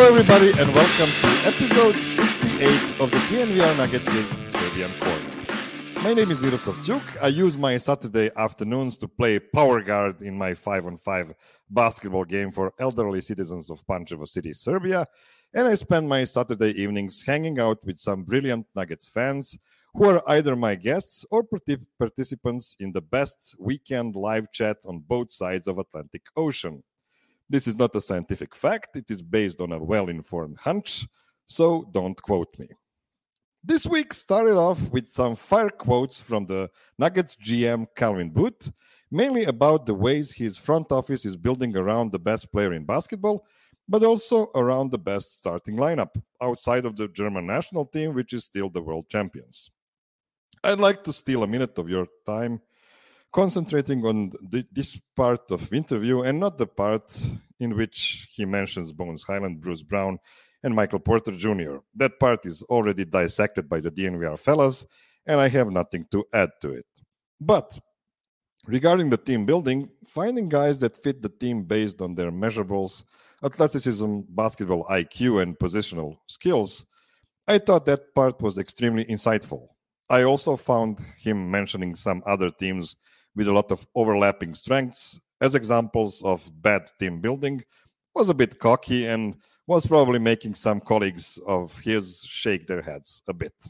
everybody, and welcome to episode 68 of the DNVR Nuggets' Serbian Corner. My name is Miroslav Ćuk. I use my Saturday afternoons to play power guard in my 5-on-5 basketball game for elderly citizens of Pančevo City, Serbia, and I spend my Saturday evenings hanging out with some brilliant Nuggets fans who are either my guests or participants in the best weekend live chat on both sides of Atlantic Ocean. This is not a scientific fact. It is based on a well-informed hunch, so don't quote me. This week started off with some fire quotes from the Nuggets GM Calvin Booth, mainly about the ways his front office is building around the best player in basketball, but also around the best starting lineup, outside of the German national team, which is still the world champions. I'd like to steal a minute of your time concentrating on this part of interview and not the part in which he mentions Bones Hyland, Bruce Brown, and Michael Porter Jr. That part is already dissected by the DNVR fellas, and I have nothing to add to it. But regarding the team building, finding guys that fit the team based on their measurables, athleticism, basketball IQ, and positional skills, I thought that part was extremely insightful. I also found him mentioning some other teams with a lot of overlapping strengths as examples of bad team building, was a bit cocky and was probably making some colleagues of his shake their heads a bit.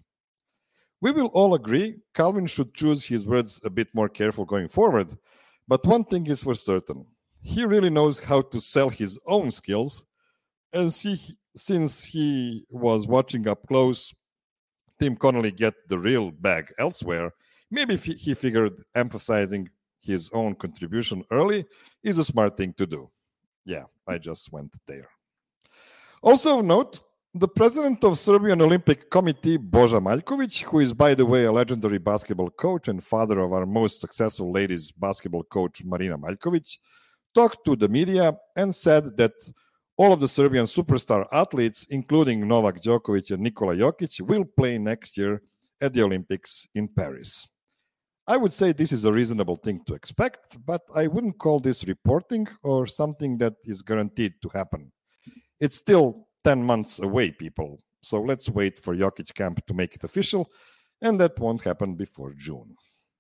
We will all agree Calvin should choose his words a bit more careful going forward, but one thing is for certain. He really knows how to sell his own skills, and since he was watching up close Tim Connolly get the real bag elsewhere, maybe he figured emphasizing his own contribution early is a smart thing to do. Yeah, I just went there. Also of note, the president of Serbian Olympic Committee, Boža Maljković, who is, by the way, a legendary basketball coach and father of our most successful ladies basketball coach, Marina Maljković, talked to the media and said that all of the Serbian superstar athletes, including Novak Djokovic and Nikola Jokic, will play next year at the Olympics in Paris. I would say this is a reasonable thing to expect, but I wouldn't call this reporting or something that is guaranteed to happen. It's still 10 months away, people, so let's wait for Jokic camp to make it official, and that won't happen before June.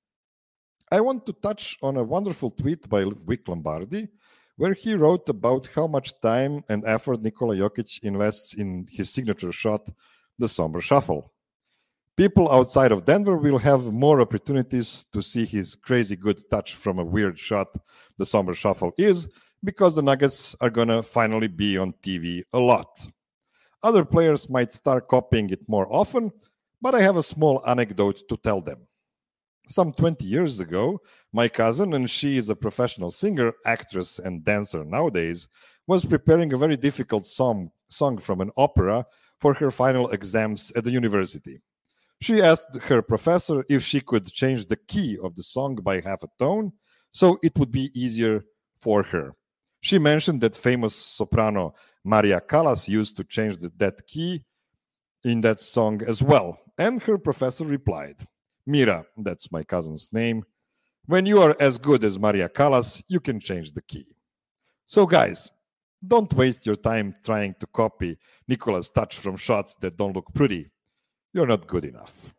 I want to touch on a wonderful tweet by Vic Lombardi, where he wrote about how much time and effort Nikola Jokic invests in his signature shot, the Somber Shuffle. People outside of Denver will have more opportunities to see his crazy good touch from a weird shot the Somber Shuffle is, because the Nuggets are going to finally be on TV a lot. Other players might start copying it more often, but I have a small anecdote to tell them. Some 20 years ago, my cousin, and she is a professional singer, actress, and dancer nowadays, was preparing a very difficult song from an opera for her final exams at the university. She asked her professor if she could change the key of the song by half a tone, so it would be easier for her. She mentioned that famous soprano Maria Callas used to change that key in that song as well, and her professor replied, "Mira, that's my cousin's name, when you are as good as Maria Callas, you can change the key." So guys, don't waste your time trying to copy Nikola's touch from shots that don't look pretty. You're not good enough.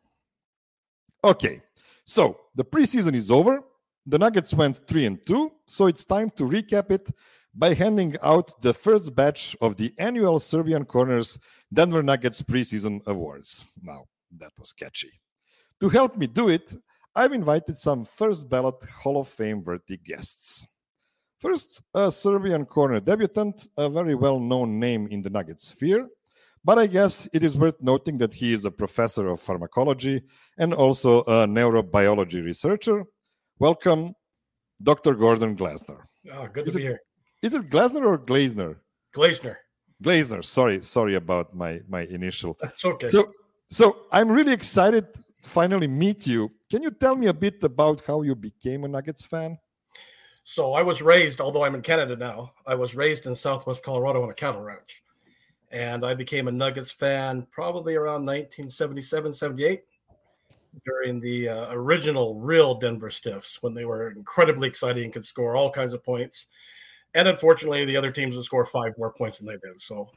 Okay, so the preseason is over. The Nuggets went 3-2, so it's time to recap it by handing out the first batch of the annual Serbian Corners Denver Nuggets preseason awards. Now, that was catchy. To help me do it, I've invited some first ballot Hall of Fame worthy guests. First, a Serbian corner debutant, a very well-known name in the Nuggets sphere, but I guess it is worth noting that he is a professor of pharmacology and also a neurobiology researcher. Welcome, Dr. Gordon Glasner. Oh, good to be here. Is it Glasner or Glazner? Glazner. Glazner. Sorry about my initial. That's okay. So I'm really excited to finally meet you. Can you tell me a bit about how you became a Nuggets fan? So I was raised, although I'm in Canada now, I was raised in Southwest Colorado on a cattle ranch. And I became a Nuggets fan probably around 1977, 78, during the original real Denver Stiffs, when they were incredibly exciting and could score all kinds of points. And unfortunately, the other teams will score 5 more points than they did. So,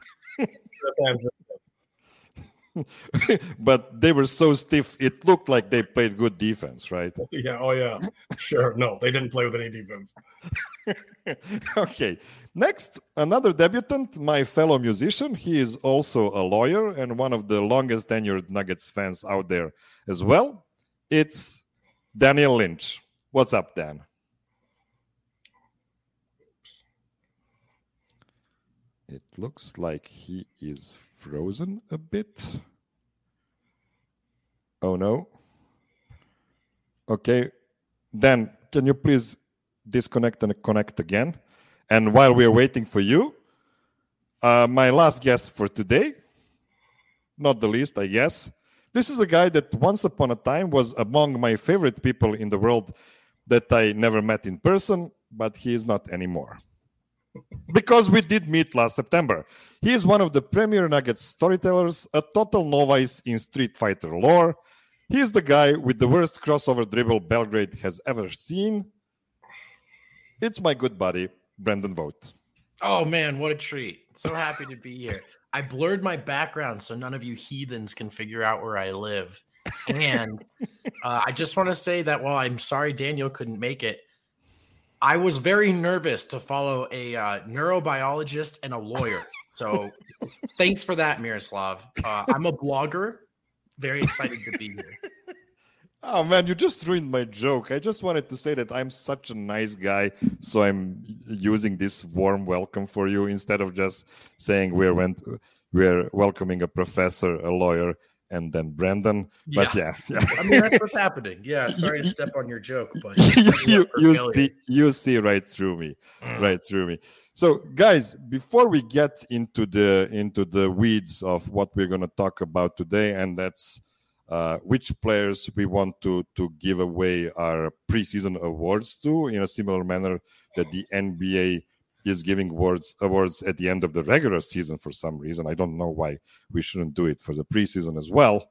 but they were so stiff, it looked like they played good defense, right? Yeah. Oh, yeah. Sure. No, they didn't play with any defense. Okay. Next, another debutant, my fellow musician. He is also a lawyer and one of the longest tenured Nuggets fans out there as well. It's Daniel Lynch. What's up, Dan? It looks like he is frozen a bit. Oh, no. Okay. Dan, can you please disconnect and connect again? And while we're waiting for you, my last guest for today, not the least, I guess. This is a guy that once upon a time was among my favorite people in the world that I never met in person, but he is not anymore. Because we did meet last September. He is one of the premier Nuggets storytellers, a total novice in Street Fighter lore. He is the guy with the worst crossover dribble Belgrade has ever seen. It's my good buddy, Brendan Vogt. Oh, man, what a treat. So happy to be here. I blurred my background so none of you heathens can figure out where I live. And I just want to say that while I'm sorry Daniel couldn't make it, I was very nervous to follow a neurobiologist and a lawyer. So thanks for that, Miroslav. I'm a blogger. Very excited to be here. Oh, man, you just ruined my joke. I just wanted to say that I'm such a nice guy, so I'm using this warm welcome for you instead of just saying we're welcoming a professor, a lawyer, and then Brendan. Yeah. But yeah. I mean, that's what's happening. Yeah, sorry to step on your joke, but you see right through me, right through me. So, guys, before we get into the weeds of what we're going to talk about today, and that's which players we want to give away our preseason awards to, in a similar manner that the NBA is giving awards at the end of the regular season for some reason. I don't know why we shouldn't do it for the preseason as well.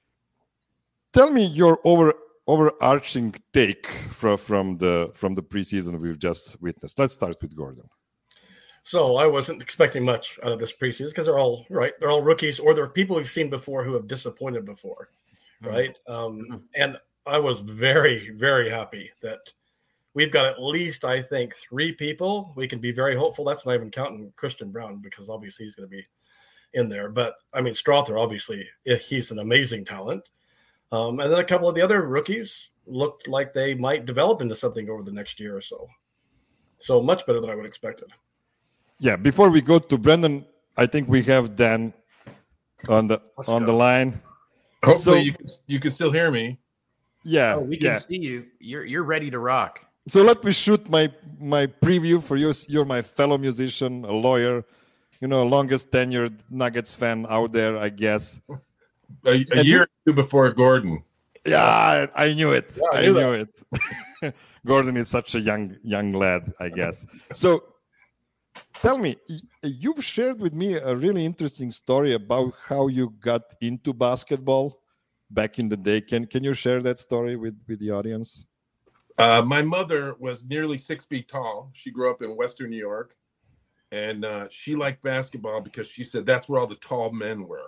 Tell me your overarching take from the preseason we've just witnessed. Let's start with Gordon. So I wasn't expecting much out of this preseason because they're all rookies, or they're people we've seen before who have disappointed before, right? And I was very, very happy that we've got at least, I think, 3 people. We can be very hopeful. That's not even counting Christian Braun, because obviously he's going to be in there. But, I mean, Strother, obviously, he's an amazing talent. And then a couple of the other rookies looked like they might develop into something over the next year or so. So much better than I would have expected. Yeah, before we go to Brendan, I think we have Dan on the line. Hopefully you can still hear me. Yeah. Oh, we can see you. You're ready to rock. So let me shoot my preview for you. You're my fellow musician, a lawyer, longest tenured Nuggets fan out there, I guess. A year or two before Gordon. Yeah, I knew it. Yeah, I knew it. Gordon is such a young lad, I guess. So tell me, you've shared with me a really interesting story about how you got into basketball back in the day. Can you share that story with the audience? My mother was nearly 6 feet tall. She grew up in Western New York, and she liked basketball because she said that's where all the tall men were.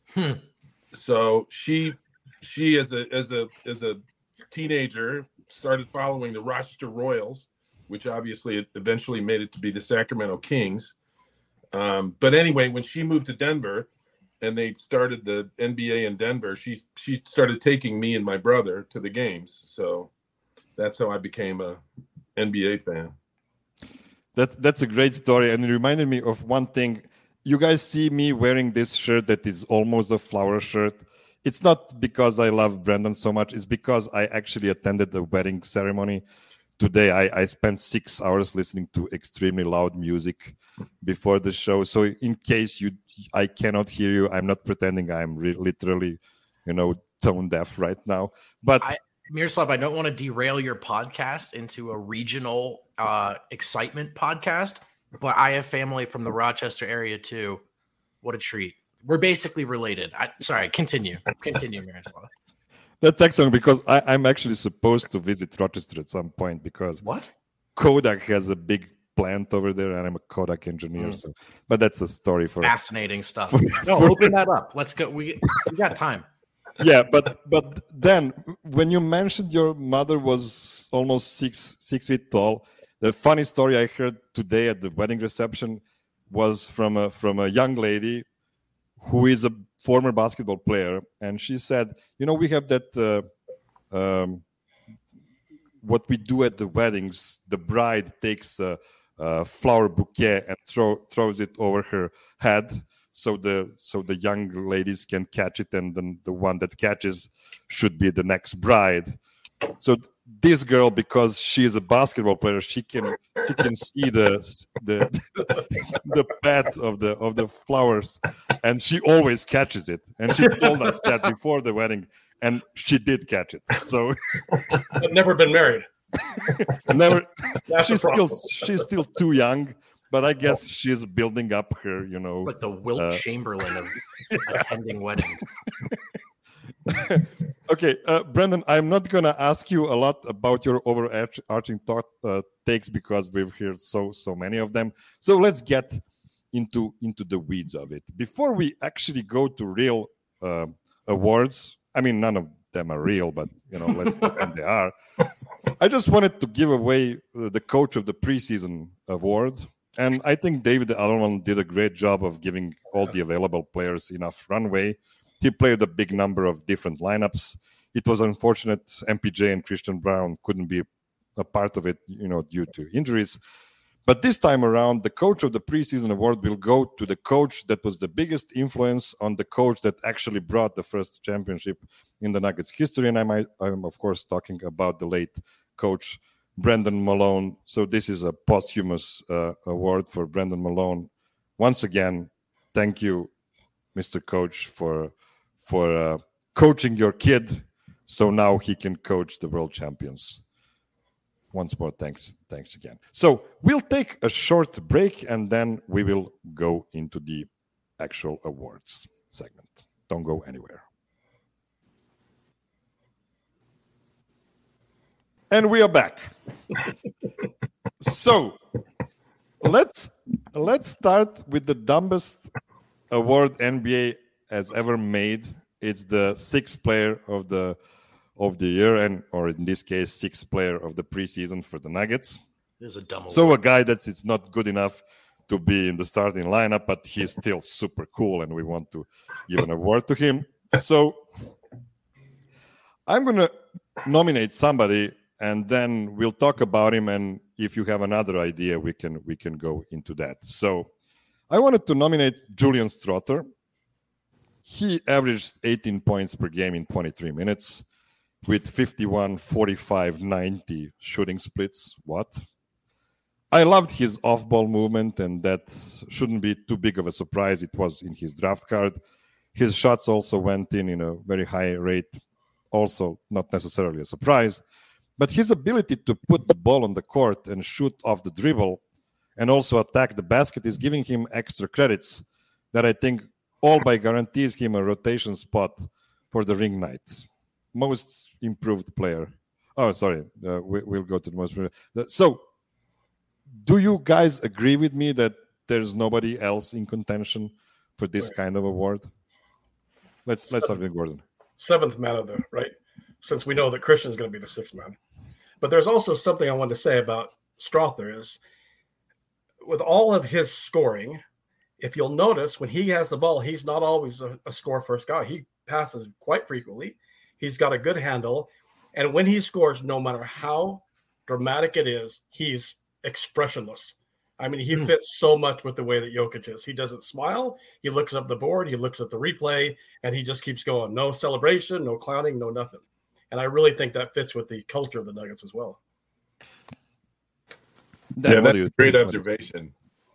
So she as a teenager started following the Rochester Royals, which obviously eventually made it to be the Sacramento Kings. But anyway, when she moved to Denver and they started the NBA in Denver, she started taking me and my brother to the games. So that's how I became a NBA fan. That's a great story, and it reminded me of one thing. You guys see me wearing this shirt that is almost a flower shirt. It's not because I love Brendan so much. It's because I actually attended the wedding ceremony today. I spent 6 hours listening to extremely loud music before the show. So in case I cannot hear you, I'm not pretending I'm literally, tone deaf right now. But Miroslav, I don't want to derail your podcast into a regional excitement podcast, but I have family from the Rochester area too. What a treat. We're basically related. Sorry, continue, Miroslav. That's excellent, because I'm actually supposed to visit Rochester at some point, because what? Kodak has a big plant over there, and I'm a Kodak engineer. So, but that's a story for fascinating stuff. No, open that up. Let's go. We got time. Yeah, but then when you mentioned your mother was almost six feet tall, the funny story I heard today at the wedding reception was from a young lady who is a former basketball player, and she said, we have that what we do at the weddings. The bride takes a flower bouquet and throws it over her head, so the young ladies can catch it, and then the one that catches should be the next bride. So this girl, because she is a basketball player, she can see the path of the flowers, and she always catches it. And she told us that before the wedding, and she did catch it. So I've never been married. Never. That's She's still too young, but I guess she's building up her, like the Wilt Chamberlain of attending weddings. Okay, Brendan, I'm not going to ask you a lot about your overarching thought takes because we've heard so many of them. So let's get into the weeds of it. Before we actually go to real awards, I mean, none of them are real, but let's pretend they are. I just wanted to give away the Coach of the Preseason award. And I think David Allman did a great job of giving all the available players enough runway. He played a big number of different lineups. It was unfortunate MPJ and Christian Braun couldn't be a part of it, due to injuries. But this time around, the Coach of the Preseason award will go to the coach that was the biggest influence on the coach that actually brought the first championship in the Nuggets history. And I'm of course talking about the late coach Brendan Malone. So this is a posthumous award for Brendan Malone. Once again, thank you, Mr. Coach, for coaching your kid, so now he can coach the world champions. Once more, thanks again. So we'll take a short break, and then we will go into the actual awards segment. Don't go anywhere. And we are back. So let's start with the dumbest award NBA has ever made. It's the sixth player of the year, or in this case, sixth player of the preseason for the Nuggets. This is a dumb award. So a guy it's not good enough to be in the starting lineup, but he's still super cool, and we want to give an award to him. So I'm going to nominate somebody, and then we'll talk about him, and if you have another idea, we can go into that. So I wanted to nominate Julian Strawther. He averaged 18 points per game in 23 minutes with 51, 45, 90 shooting splits. What? I loved his off-ball movement, and that shouldn't be too big of a surprise. It was in his draft card. His shots also went in a very high rate, also not necessarily a surprise. But his ability to put the ball on the court and shoot off the dribble and also attack the basket is giving him extra credits that I think all by guarantees him a rotation spot for the ring night. Most improved player. Oh, sorry. We'll go to the most. So, do you guys agree with me that there's nobody else in contention for this kind of award? Let's start with Gordon. Seventh man of the right, since we know that Christian's going to be the sixth man. But there's also something I wanted to say about Strawther is, with all of his scoring, if you'll notice, when he has the ball, he's not always a score-first guy. He passes quite frequently. He's got a good handle. And when he scores, no matter how dramatic it is, he's expressionless. I mean, he fits so much with the way that Jokic is. He doesn't smile. He looks up the board. He looks at the replay, and he just keeps going. No celebration, no clowning, no nothing. And I really think that fits with the culture of the Nuggets as well. Yeah, that's a great observation.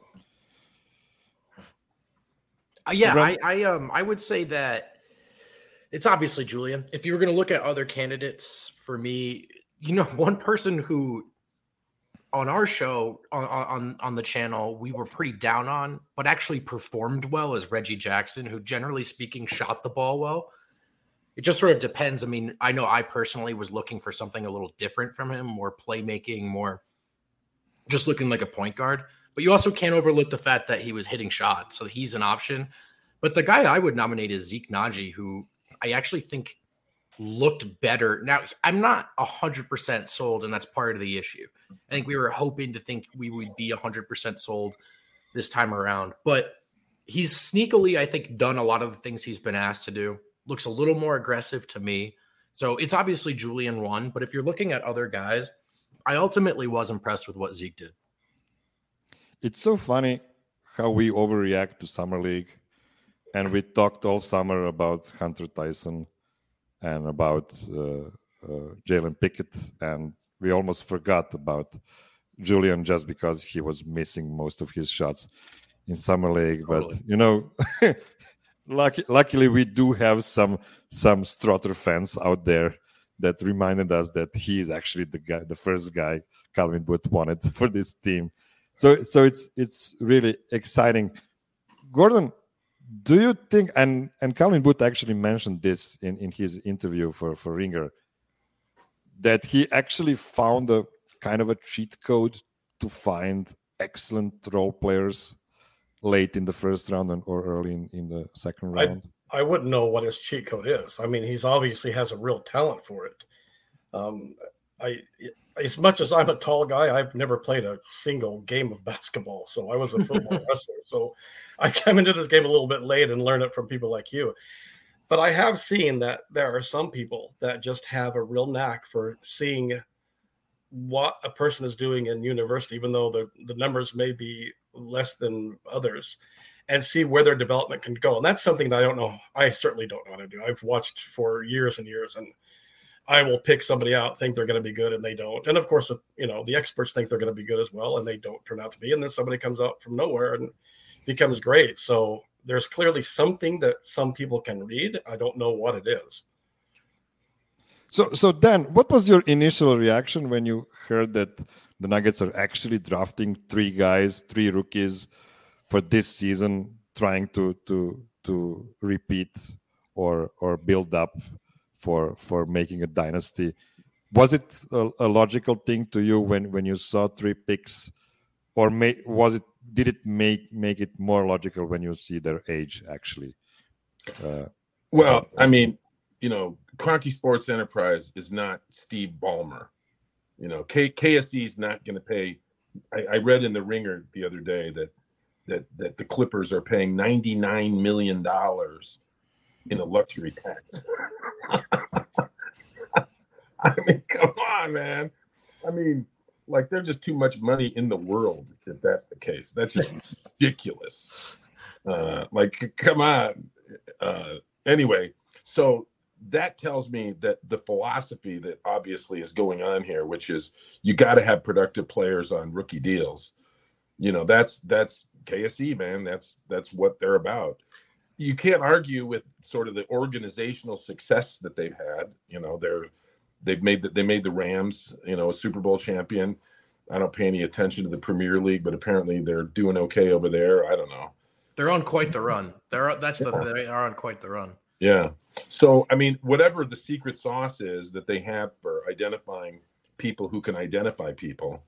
I would say that it's obviously Julian. If you were going to look at other candidates for me, one person who on our show on the channel we were pretty down on, but actually performed well is Reggie Jackson, who generally speaking shot the ball well. It just sort of depends. I mean, I know I personally was looking for something a little different from him, more playmaking, more just looking like a point guard. But you also can't overlook the fact that he was hitting shots, so he's an option. But the guy I would nominate is Zeke Naji, who I actually think looked better. Now, I'm not 100% sold, and that's part of the issue. I think we were hoping to think we would be 100% sold this time around. But he's sneakily, I think, done a lot of the things he's been asked to do. Looks a little more aggressive to me. So it's obviously Julian one, but if you're looking at other guys, I ultimately was impressed with what Zeke did. It's so funny how we overreact to Summer League. And we talked all summer about Hunter Tyson and about Jalen Pickett. And we almost forgot about Julian just because he was missing most of his shots in Summer League. Totally. But, luckily we do have some Strother fans out there that reminded us that he is actually the first guy Calvin Booth wanted for this team. So it's really exciting. Gordon, do you think, and Calvin Booth actually mentioned this in his interview for Ringer, that he actually found a kind of a cheat code to find excellent role players late in the first round or early in the second round? I wouldn't know what his cheat code is. I mean, he's obviously has a real talent for it. As much as I'm a tall guy, I've never played a single game of basketball. So I was a football wrestler. So I came into this game a little bit late and learned it from people like you. But I have seen that there are some people that just have a real knack for seeing what a person is doing in university, even though the numbers may be less than others, and see where their development can go. And that's something that I don't know. I certainly don't know how to do. I've watched for years and years, and I will pick somebody out, think they're going to be good, and they don't. And of course, the experts think they're going to be good as well, and they don't turn out to be. And then somebody comes out from nowhere and becomes great. So there's clearly something that some people can read. I don't know what it is. So Dan, what was your initial reaction when you heard that the Nuggets are actually drafting three rookies for this season, trying to repeat or build up for making a dynasty? Was it a logical thing to you when you saw three picks, or did it make it more logical when you see their age actually? Well, I mean, Kroenke Sports Enterprise is not Steve Ballmer. KSE is not going to pay. I read in the Ringer the other day that the Clippers are paying $99 million in a luxury tax. I mean, come on, man. I mean, like, there's just too much money in the world if that's the case. That's just ridiculous. Come on. Anyway, so that tells me that the philosophy that obviously is going on here, which is you got to have productive players on rookie deals. That's KSE, man. That's what they're about. You can't argue with sort of the organizational success that they've had. They made the Rams, a Super Bowl champion. I don't pay any attention to the Premier League, but apparently they're doing okay over there. I don't know. They're on quite the run. They are on quite the run. Yeah. So, I mean, whatever the secret sauce is that they have for identifying people who can identify people,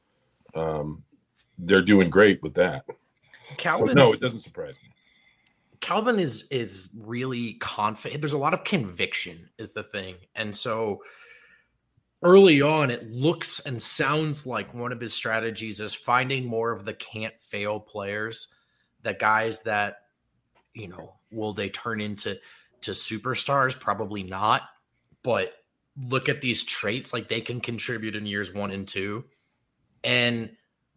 they're doing great with that. Calvin, no, it doesn't surprise me. Calvin is really confident. There's a lot of conviction is the thing. And so early on, it looks and sounds like one of his strategies is finding more of the can't fail players, the guys that, will they turn into superstars? Probably not. But look at these traits, like they can contribute in years 1 and 2. And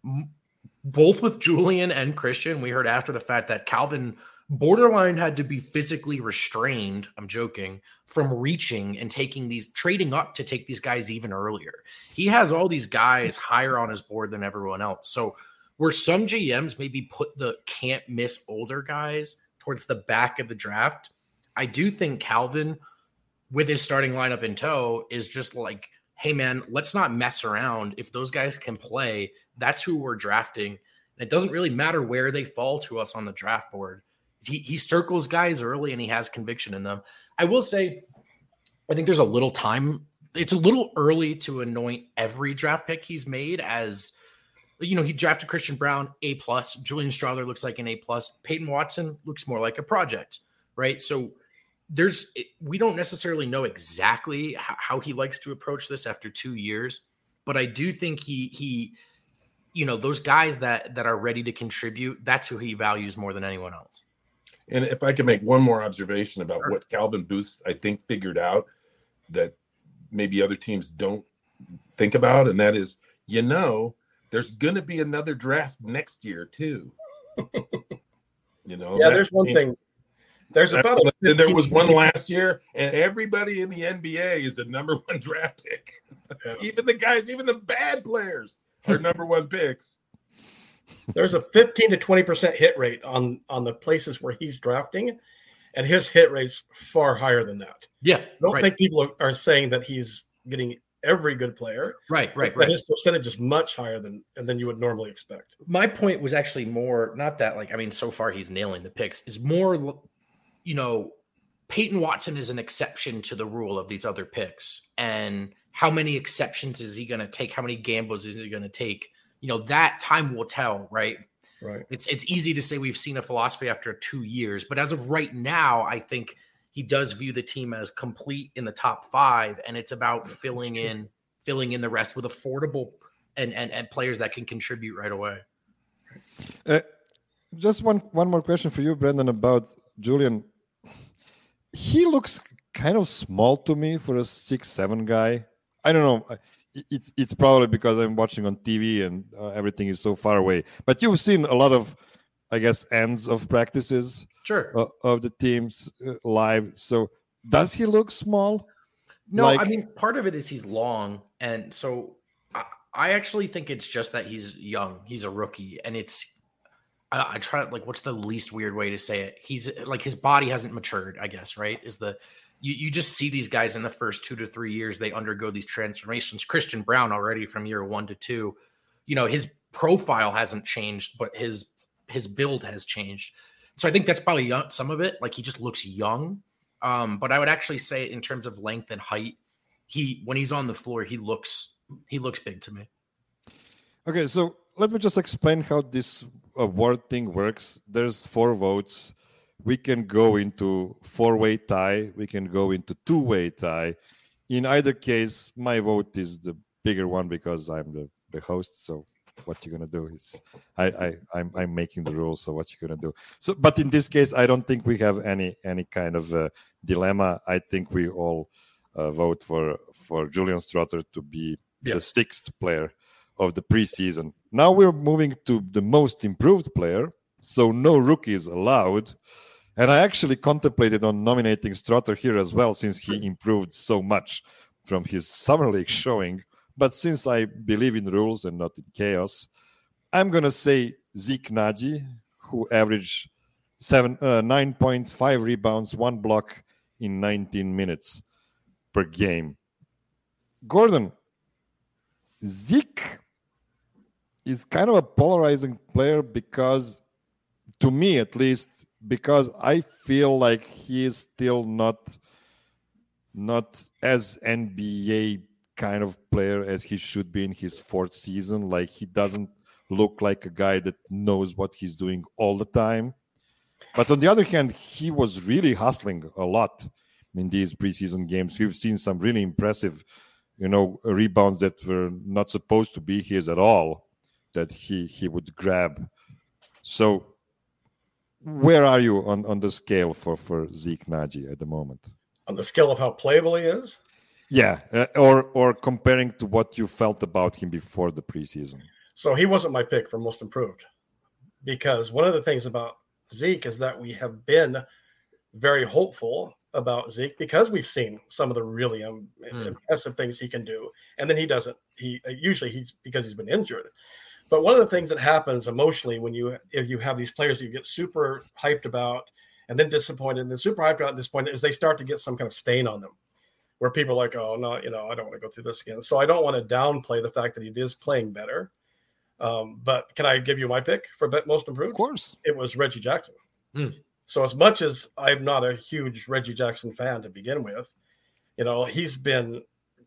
both with Julian and Christian, we heard after the fact that Calvin borderline had to be physically restrained, I'm joking, from reaching and trading up to take these guys even earlier. He has all these guys higher on his board than everyone else. So where some GMs maybe put the can't miss older guys towards the back of the draft, I do think Calvin, with his starting lineup in tow, is just like, hey man, let's not mess around. If those guys can play, that's who we're drafting. And it doesn't really matter where they fall to us on the draft board. He circles guys early and he has conviction in them. I will say, I think there's a little time. It's a little early to anoint every draft pick he's made as He drafted Christian Brown, A+. Julian Strawther looks like an A+. Peyton Watson looks more like a project, right? So we don't necessarily know exactly how he likes to approach this after 2 years, but I do think he those guys that are ready to contribute, that's who he values more than anyone else. And if I could make one more observation about what Calvin Booth, I think, figured out that maybe other teams don't think about, and that is, there's going to be another draft next year too. There's one thing. There was one last year, and everybody in the NBA is the number one draft pick. Yeah. Even the bad players are number one picks. There's a 15 to 20% hit rate on the places where he's drafting, and his hit rate's far higher than that. Yeah, I don't think people are saying that he's getting every good player. Right. His percentage is much higher than you would normally expect. My point was actually more not that so far he's nailing the picks. Is more, Peyton Watson is an exception to the rule of these other picks, and how many exceptions is he going to take? How many gambles is he going to take? That time will tell, right? Right. It's easy to say we've seen a philosophy after 2 years, but as of right now, I think he does view the team as complete in the top 5, and it's about filling in the rest with affordable and players that can contribute right away. Just one more question for you, Brendan, about Julian. He looks kind of small to me for a 6'7" guy. I don't know. It's probably because I'm watching on TV and everything is so far away. But you've seen a lot of, I guess, ends of practices. Sure. Of the teams live. So does he look small? No, part of it is he's long. And so I actually think it's just that he's young. He's a rookie. And I try, what's the least weird way to say it? He's his body hasn't matured, I guess, right? You just see these guys in the first 2 to 3 years, they undergo these transformations. Christian Brown already from year 1 to 2, his profile hasn't changed, but his build has changed. So I think that's probably some of it. He just looks young. But I would actually say in terms of length and height, when he's on the floor, he looks big to me. Okay, so let me just explain how this award thing works. There's 4 votes. We can go into 4-way tie. We can go into 2-way tie. In either case, my vote is the bigger one because I'm the host. So what you're gonna do is I'm making the rules. So what you're gonna do? So, but in this case, I don't think we have any kind of dilemma. I think we all vote for Julian Strawther to be the 6th player of the preseason. Now we're moving to the most improved player. So no rookies allowed. And I actually contemplated on nominating Strawther here as well, since he improved so much from his summer league showing. But since I believe in rules and not in chaos, I'm going to say Zeke Nnaji, who averaged 9 points, 5 rebounds, 1 block in 19 minutes per game. Gordon, Zeke is kind of a polarizing player because, to me at least, because I feel like he is still not as NBA kind of player as he should be in his 4th season. He doesn't look like a guy that knows what he's doing all the time. But on the other hand, he was really hustling a lot in these preseason games. We've seen some really impressive, rebounds that were not supposed to be his at all, that he would grab. So where are you on the scale for Zeke Nnaji at the moment? On the scale of how playable he is? Yeah, or comparing to what you felt about him before the preseason. So he wasn't my pick for most improved, because one of the things about Zeke is that we have been very hopeful about Zeke because we've seen some of the really impressive things he can do, and then he doesn't. He's because he's been injured. But one of the things that happens emotionally if you have these players you get super hyped about and then disappointed, and then super hyped out and disappointed, is they start to get some kind of stain on them, where people are like, oh no, I don't want to go through this again. So I don't want to downplay the fact that he is playing better. But can I give you my pick for most improved? Of course. It was Reggie Jackson. So as much as I'm not a huge Reggie Jackson fan to begin with, he's been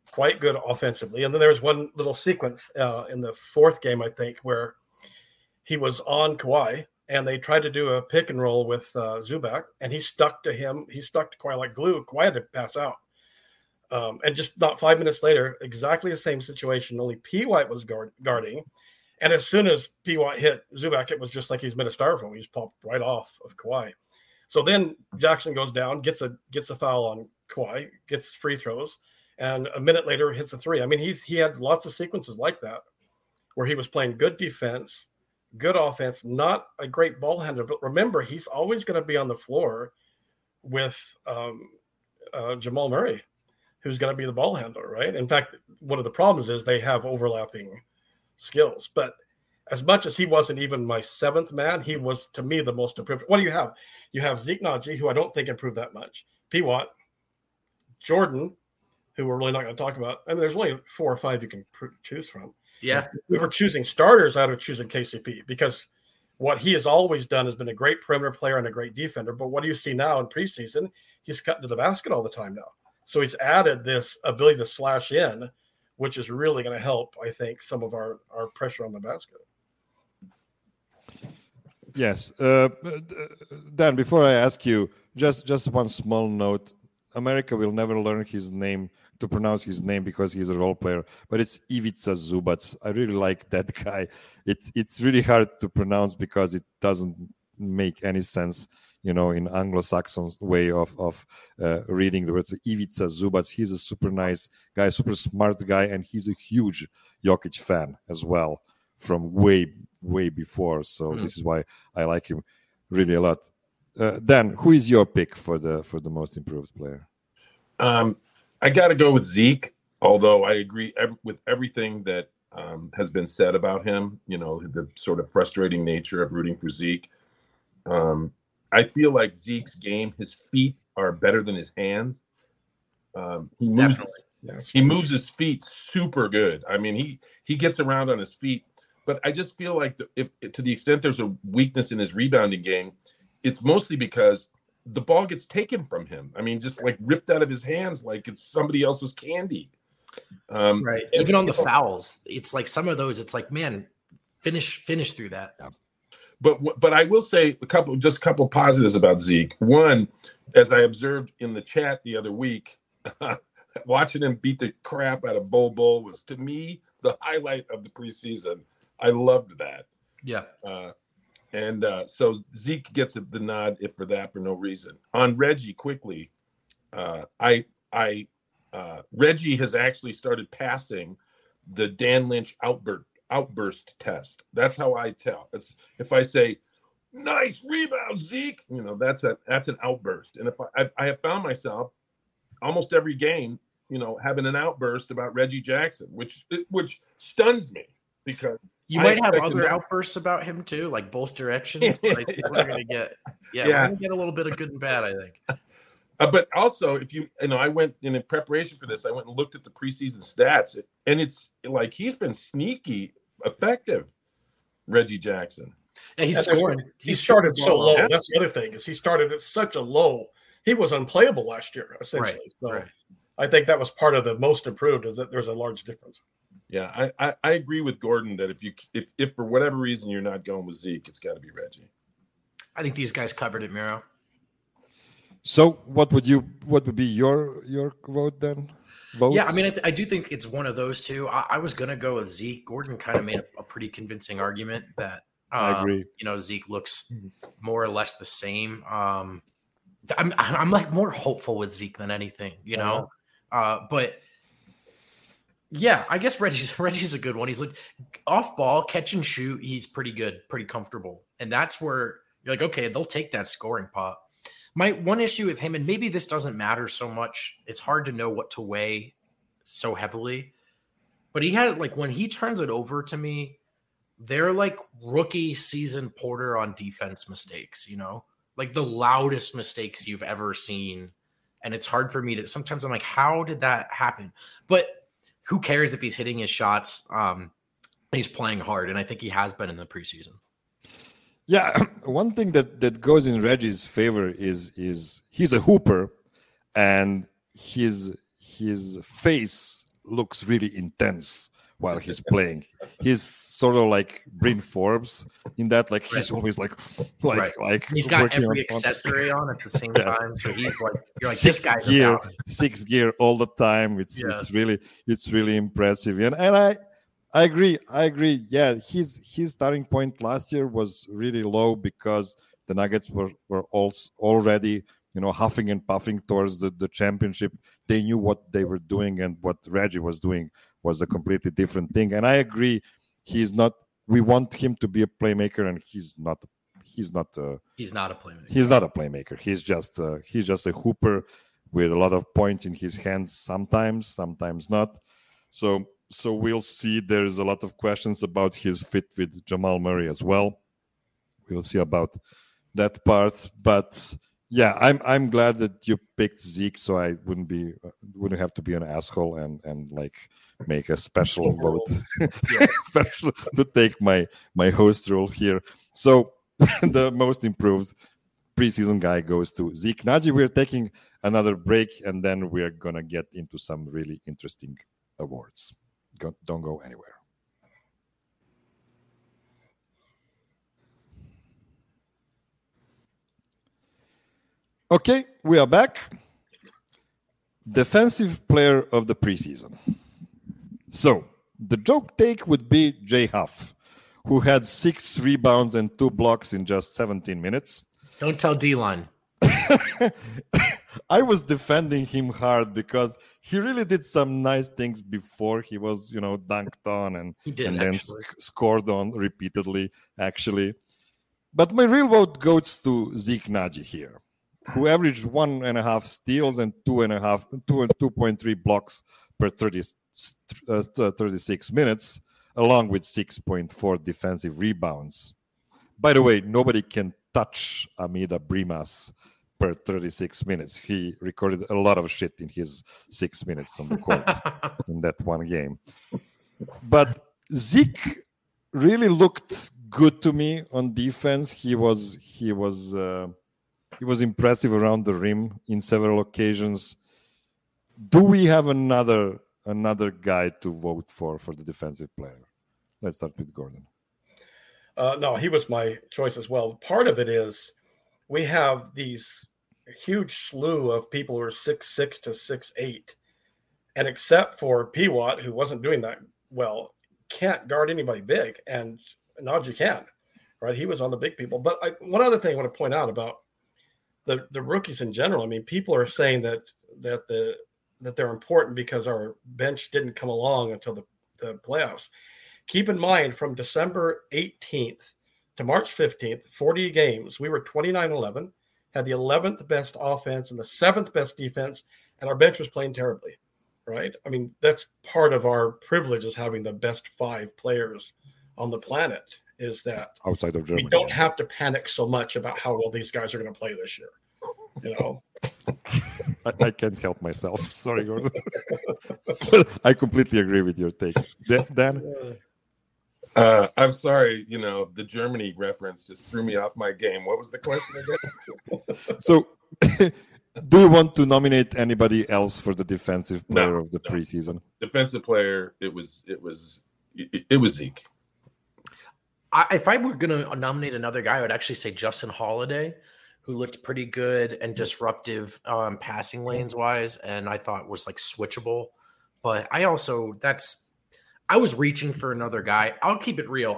quite good offensively. And then there was one little sequence in the fourth game, I think, where he was on Kawhi and they tried to do a pick and roll with Zubac, and he stuck to him. He stuck to Kawhi like glue. Kawhi had to pass out. And just not 5 minutes later, exactly the same situation, only P. White was guarding. And as soon as P. White hit Zubac, it was just like he's made a styrofoam. He just popped right off of Kawhi. So then Jackson goes down, gets a foul on Kawhi, gets free throws, and a minute later hits a three. I mean, he had lots of sequences like that where he was playing good defense, good offense, not a great ball handler. But remember, he's always going to be on the floor with Jamal Murray, who's going to be the ball handler, right? In fact, one of the problems is they have overlapping skills. But as much as he wasn't even my seventh man, he was, to me, the most improved. What do you have? You have Zeke Naji, who I don't think improved that much. P. Watt, Jordan, who we're really not going to talk about. I mean, there's only 4 or 5 you can choose from. Yeah. We were choosing starters out of choosing KCP because what he has always done has been a great perimeter player and a great defender. But what do you see now in preseason? He's cutting to the basket all the time now. So he's added this ability to slash in, which is really going to help, I think, some of our pressure on the basket. Yes. Dan, before I ask you, just one small note. America will never learn to pronounce his name because he's a role player, but it's Ivica Zubac. I really like that guy. It's really hard to pronounce because it doesn't make any sense, in Anglo-Saxon way of reading the words. Ivica Zubac. He's a super nice guy, super smart guy, and he's a huge Jokic fan as well from way before. So this is why I like him really a lot. Dan, who is your pick for the most improved player? I got to go with Zeke, although I agree with everything that has been said about him, the sort of frustrating nature of rooting for Zeke. I feel like Zeke's game, his feet are better than his hands. He moves his feet super good. I mean, he gets around on his feet, but I just feel like if to the extent there's a weakness in his rebounding game, it's mostly because the ball gets taken from him. I mean, just like ripped out of his hands like it's somebody else's candy. Right. Even on the fouls, it's like some of those, it's like, man, finish through that. Yeah. But I will say a couple positives about Zeke. One, as I observed in the chat the other week, watching him beat the crap out of Bol was, to me, the highlight of the preseason. I loved that. Yeah. And so Zeke gets the nod for no reason. On Reggie, quickly, Reggie has actually started passing the Dan Lynch outburst test. That's how I tell. It's if I say, "Nice rebound, Zeke," that's an outburst. And if I have found myself almost every game, having an outburst about Reggie Jackson, which stuns me because. You might have other outbursts about him too, like both directions. But I think we're gonna get, we're gonna get a little bit of good and bad, I think. But also, if I went in preparation for this, I went and looked at the preseason stats, and it's like he's been sneaky effective, Reggie Jackson. Yeah, he's scoring. He started so low. Yeah. That's the other thing is he started at such a low. He was unplayable last year, essentially. Right. So right. I think that was part of the most improved is that there's a large difference. Yeah, I agree with Gordon that if for whatever reason you're not going with Zeke, it's got to be Reggie. I think these guys covered it, Miro. So what would be your vote then? Yeah, I mean, I do think it's one of those two. I was going to go with Zeke. Gordon kind of made a pretty convincing argument that I agree. Zeke looks more or less the same. I'm like more hopeful with Zeke than anything, but. Yeah, I guess Reggie's a good one. He's like off ball, catch and shoot. He's pretty good, pretty comfortable. And that's where you're like, okay, they'll take that scoring pot. My one issue with him, and maybe this doesn't matter so much, it's hard to know what to weigh so heavily. But he had when he turns it over to me, they're like rookie season Porter on defense mistakes, like the loudest mistakes you've ever seen. And it's hard for me to, sometimes I'm like, how did that happen? But who cares if he's hitting his shots? He's playing hard, and I think he has been in the preseason. Yeah, one thing that goes in Reggie's favor is he's a hooper, and his face looks really intense while he's playing. He's sort of like Bryn Forbes in that, like he's always like he's got every accessory on at the same time. So he's like, you're like, this guy's about 6 gear all the time. It's really impressive. And I agree. Yeah, his starting point last year was really low because the Nuggets were also already, huffing and puffing towards the championship. They knew what they were doing, and what Reggie was doing was a completely different thing. And I agree, he's not. We want him to be a playmaker, and he's not. He's not a playmaker. He's not a playmaker. He's just a hooper with a lot of points in his hands. Sometimes not. So we'll see. There's a lot of questions about his fit with Jamal Murray as well. We'll see about that part, but. Yeah, I'm glad that you picked Zeke, so I wouldn't have to be an asshole and like make a special vote, special to take my host role here. So the most improved preseason guy goes to Zeke Nnaji. We're taking another break, and then we're gonna get into some really interesting awards. Don't go anywhere. Okay, we are back. Defensive player of the preseason. So, the joke take would be Jay Huff, who had 6 rebounds and 2 blocks in just 17 minutes. Don't tell D-Line. I was defending him hard because he really did some nice things before he was, dunked on and then scored on repeatedly, actually. But my real vote goes to Zeke Nnaji here, who averaged 1.5 steals and 2.3 blocks per 36 minutes, along with 6.4 defensive rebounds. By the way, nobody can touch Amida Brimas per 36 minutes. He recorded a lot of shit in his 6 minutes on the court in that one game. But Zeke really looked good to me on defense. He was impressive around the rim in several occasions. Do we have another guy to vote for the defensive player? Let's start with Gordon. No, he was my choice as well. Part of it is we have these huge slew of people who are 6'6" to 6'8", and except for Pewatt, who wasn't doing that well, can't guard anybody big, and Nnaji can, right? He was on the big people. But one other thing I want to point out about the rookies in general. I mean, people are saying that they're important because our bench didn't come along until the playoffs. Keep in mind, from December 18th to March 15th, 40 games, we were 29-11, had the 11th best offense and the 7th best defense, and our bench was playing terribly, right? I mean, that's part of our privilege, is having the best 5 players on the planet, is that outside of Germany, we don't have to panic so much about how well these guys are going to play this year. I can't help myself. Sorry, Gordon. I completely agree with your take. Dan? I'm sorry, the Germany reference just threw me off my game. What was the question again? So, do you want to nominate anybody else for the defensive player of the preseason? Defensive player, it was Zeke. If I were going to nominate another guy, I would actually say Justin Holiday, who looked pretty good and disruptive passing lanes wise, and I thought was like switchable. But I was reaching for another guy. I'll keep it real.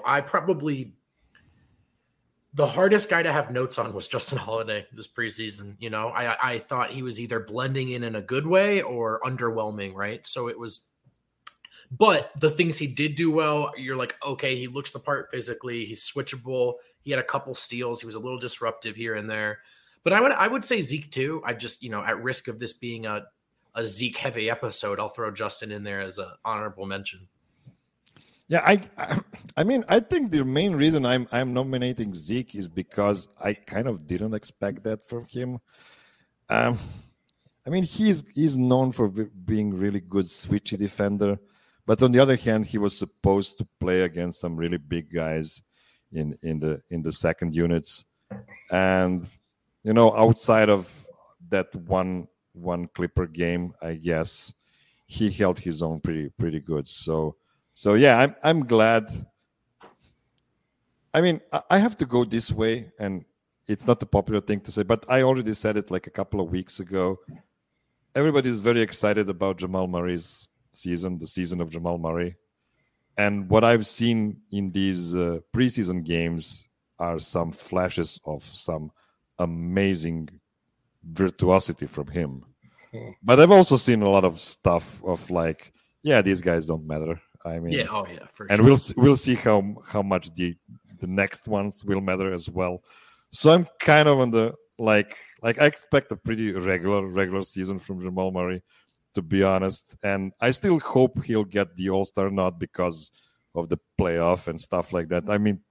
The hardest guy to have notes on was Justin Holiday this preseason. I thought he was either blending in a good way or underwhelming, right? So it was. But the things he did do well, you're like, okay, he looks the part physically. He's switchable. He had a couple steals. He was a little disruptive here and there. But I would say Zeke too. I just, at risk of this being a Zeke heavy episode, I'll throw Justin in there as an honorable mention. Yeah, I mean, I think the main reason I'm nominating Zeke is because I kind of didn't expect that from him. I mean, he's known for being really good switchy defender. But on the other hand, he was supposed to play against some really big guys in the second units, and outside of that one Clipper game, I guess he held his own pretty good. So yeah, I'm glad. I mean, I have to go this way, and it's not a popular thing to say, but I already said it like a couple of weeks ago. Everybody's very excited about Jamal Murray's season, the season of Jamal Murray. And what I've seen in these preseason games are some flashes of some amazing virtuosity from him. But I've also seen a lot of stuff of like, yeah, these guys don't matter. I mean, yeah, for and sure. we'll see how much the next ones will matter as well. So I'm kind of on the like I expect a pretty regular season from Jamal Murray, to be honest. And I still hope he'll get the All-Star nod because of the playoff and stuff like that. I mean,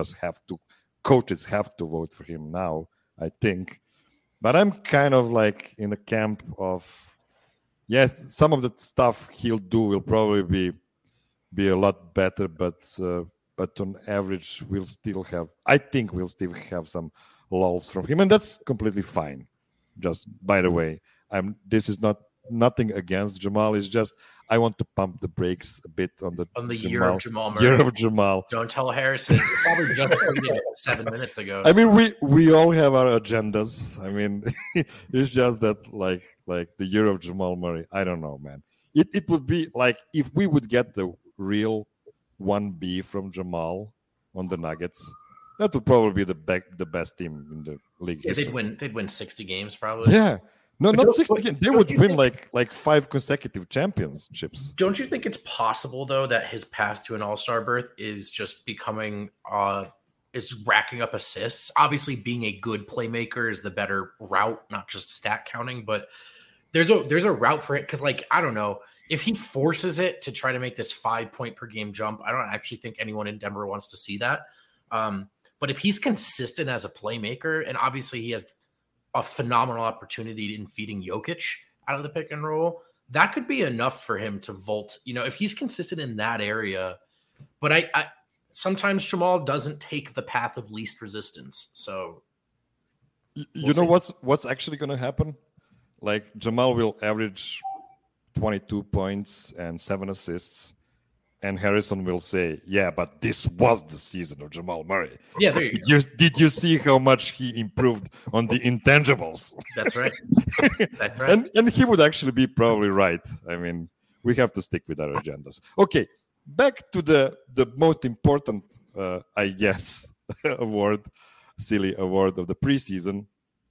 coaches have to vote for him now, I think. But I'm kind of like in the camp of, yes, some of the stuff he'll do will probably be a lot better, but on average, I think we'll still have some lulls from him, and that's completely fine. Just by the way, this is nothing against Jamal. It's just I want to pump the brakes a bit on the year of Jamal Murray. Year of Jamal. Don't tell Harrison. You probably just tweeted it 7 minutes ago. I mean, we all have our agendas. I mean, it's just that like the year of Jamal Murray. I don't know, man. It would be like if we would get the real 1B from Jamal on the Nuggets. That would probably be the best team in the league. Yeah, history. they'd win 60 games probably. Yeah. No, not 60 games. They would win like 5 consecutive championships. Don't you think it's possible though that his path to an All-Star berth is just becoming is racking up assists? Obviously, being a good playmaker is the better route, not just stat counting, but there's a route for it because, like, I don't know. If he forces it to try to make this 5-point per game jump, I don't actually think anyone in Denver wants to see that. But if he's consistent as a playmaker, and obviously he has a phenomenal opportunity in feeding Jokic out of the pick and roll, that could be enough for him to vault. You know, if he's consistent in that area, but I sometimes Jamal doesn't take the path of least resistance. So you know what's actually going to happen? Like Jamal will average 22 points and 7 assists. And Harrison will say, yeah, but this was the season of Jamal Murray. Yeah, there you go. Did you see how much he improved on the intangibles? That's right. That's right. And he would actually be probably right. I mean, we have to stick with our agendas. Okay, back to the most important, I guess, silly award of the preseason,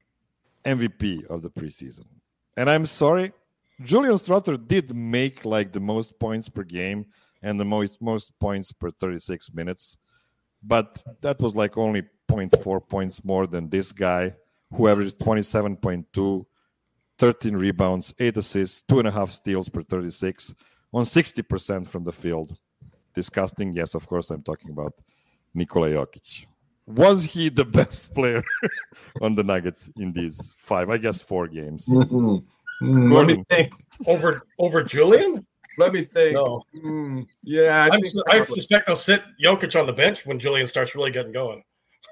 MVP of the preseason. And I'm sorry, Julian Stroughter did make like the most points per game and the most points per 36 minutes. But that was like only 0.4 points more than this guy, who averaged 27.2, 13 rebounds, 8 assists, 2.5 steals per 36, on 60% from the field. Disgusting. Yes, of course, I'm talking about Nikola Jokic. Was he the best player on the Nuggets in these 4 games? Mm-hmm. Let me think. Over Julian? Let me think. No. Yeah, I suspect they'll sit Jokic on the bench when Julian starts really getting going.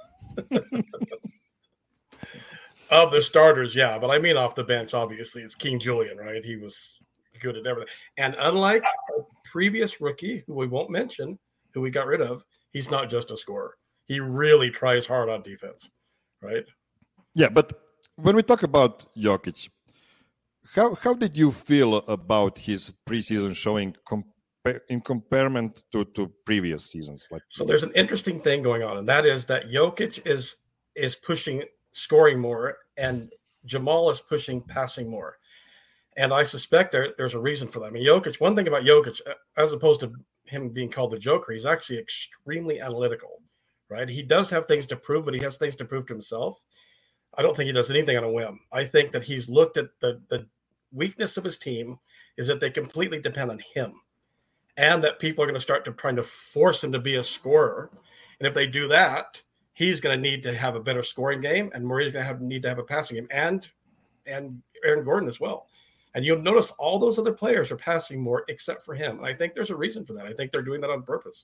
Of the starters, yeah. But I mean off the bench, obviously, it's King Julian, right? He was good at everything. And unlike our previous rookie, who we won't mention, who we got rid of, he's not just a scorer. He really tries hard on defense, right? Yeah, but when we talk about Jokic, how did you feel about his preseason showing in comparison to previous seasons? So there's an interesting thing going on, and that is that Jokic is pushing scoring more, and Jamal is pushing passing more. And I suspect there's a reason for that. I mean, Jokic, one thing about Jokic, as opposed to him being called the Joker, he's actually extremely analytical, right? He does have things to prove, but he has things to prove to himself. I don't think he does anything on a whim. I think that he's looked at the weakness of his team is that they completely depend on him, and that people are going to start trying to force him to be a scorer. And if they do that, he's going to need to have a better scoring game, and Murray's going to need to have a passing game, and Aaron Gordon as well. And you'll notice all those other players are passing more except for him. And I think there's a reason for that. I think they're doing that on purpose.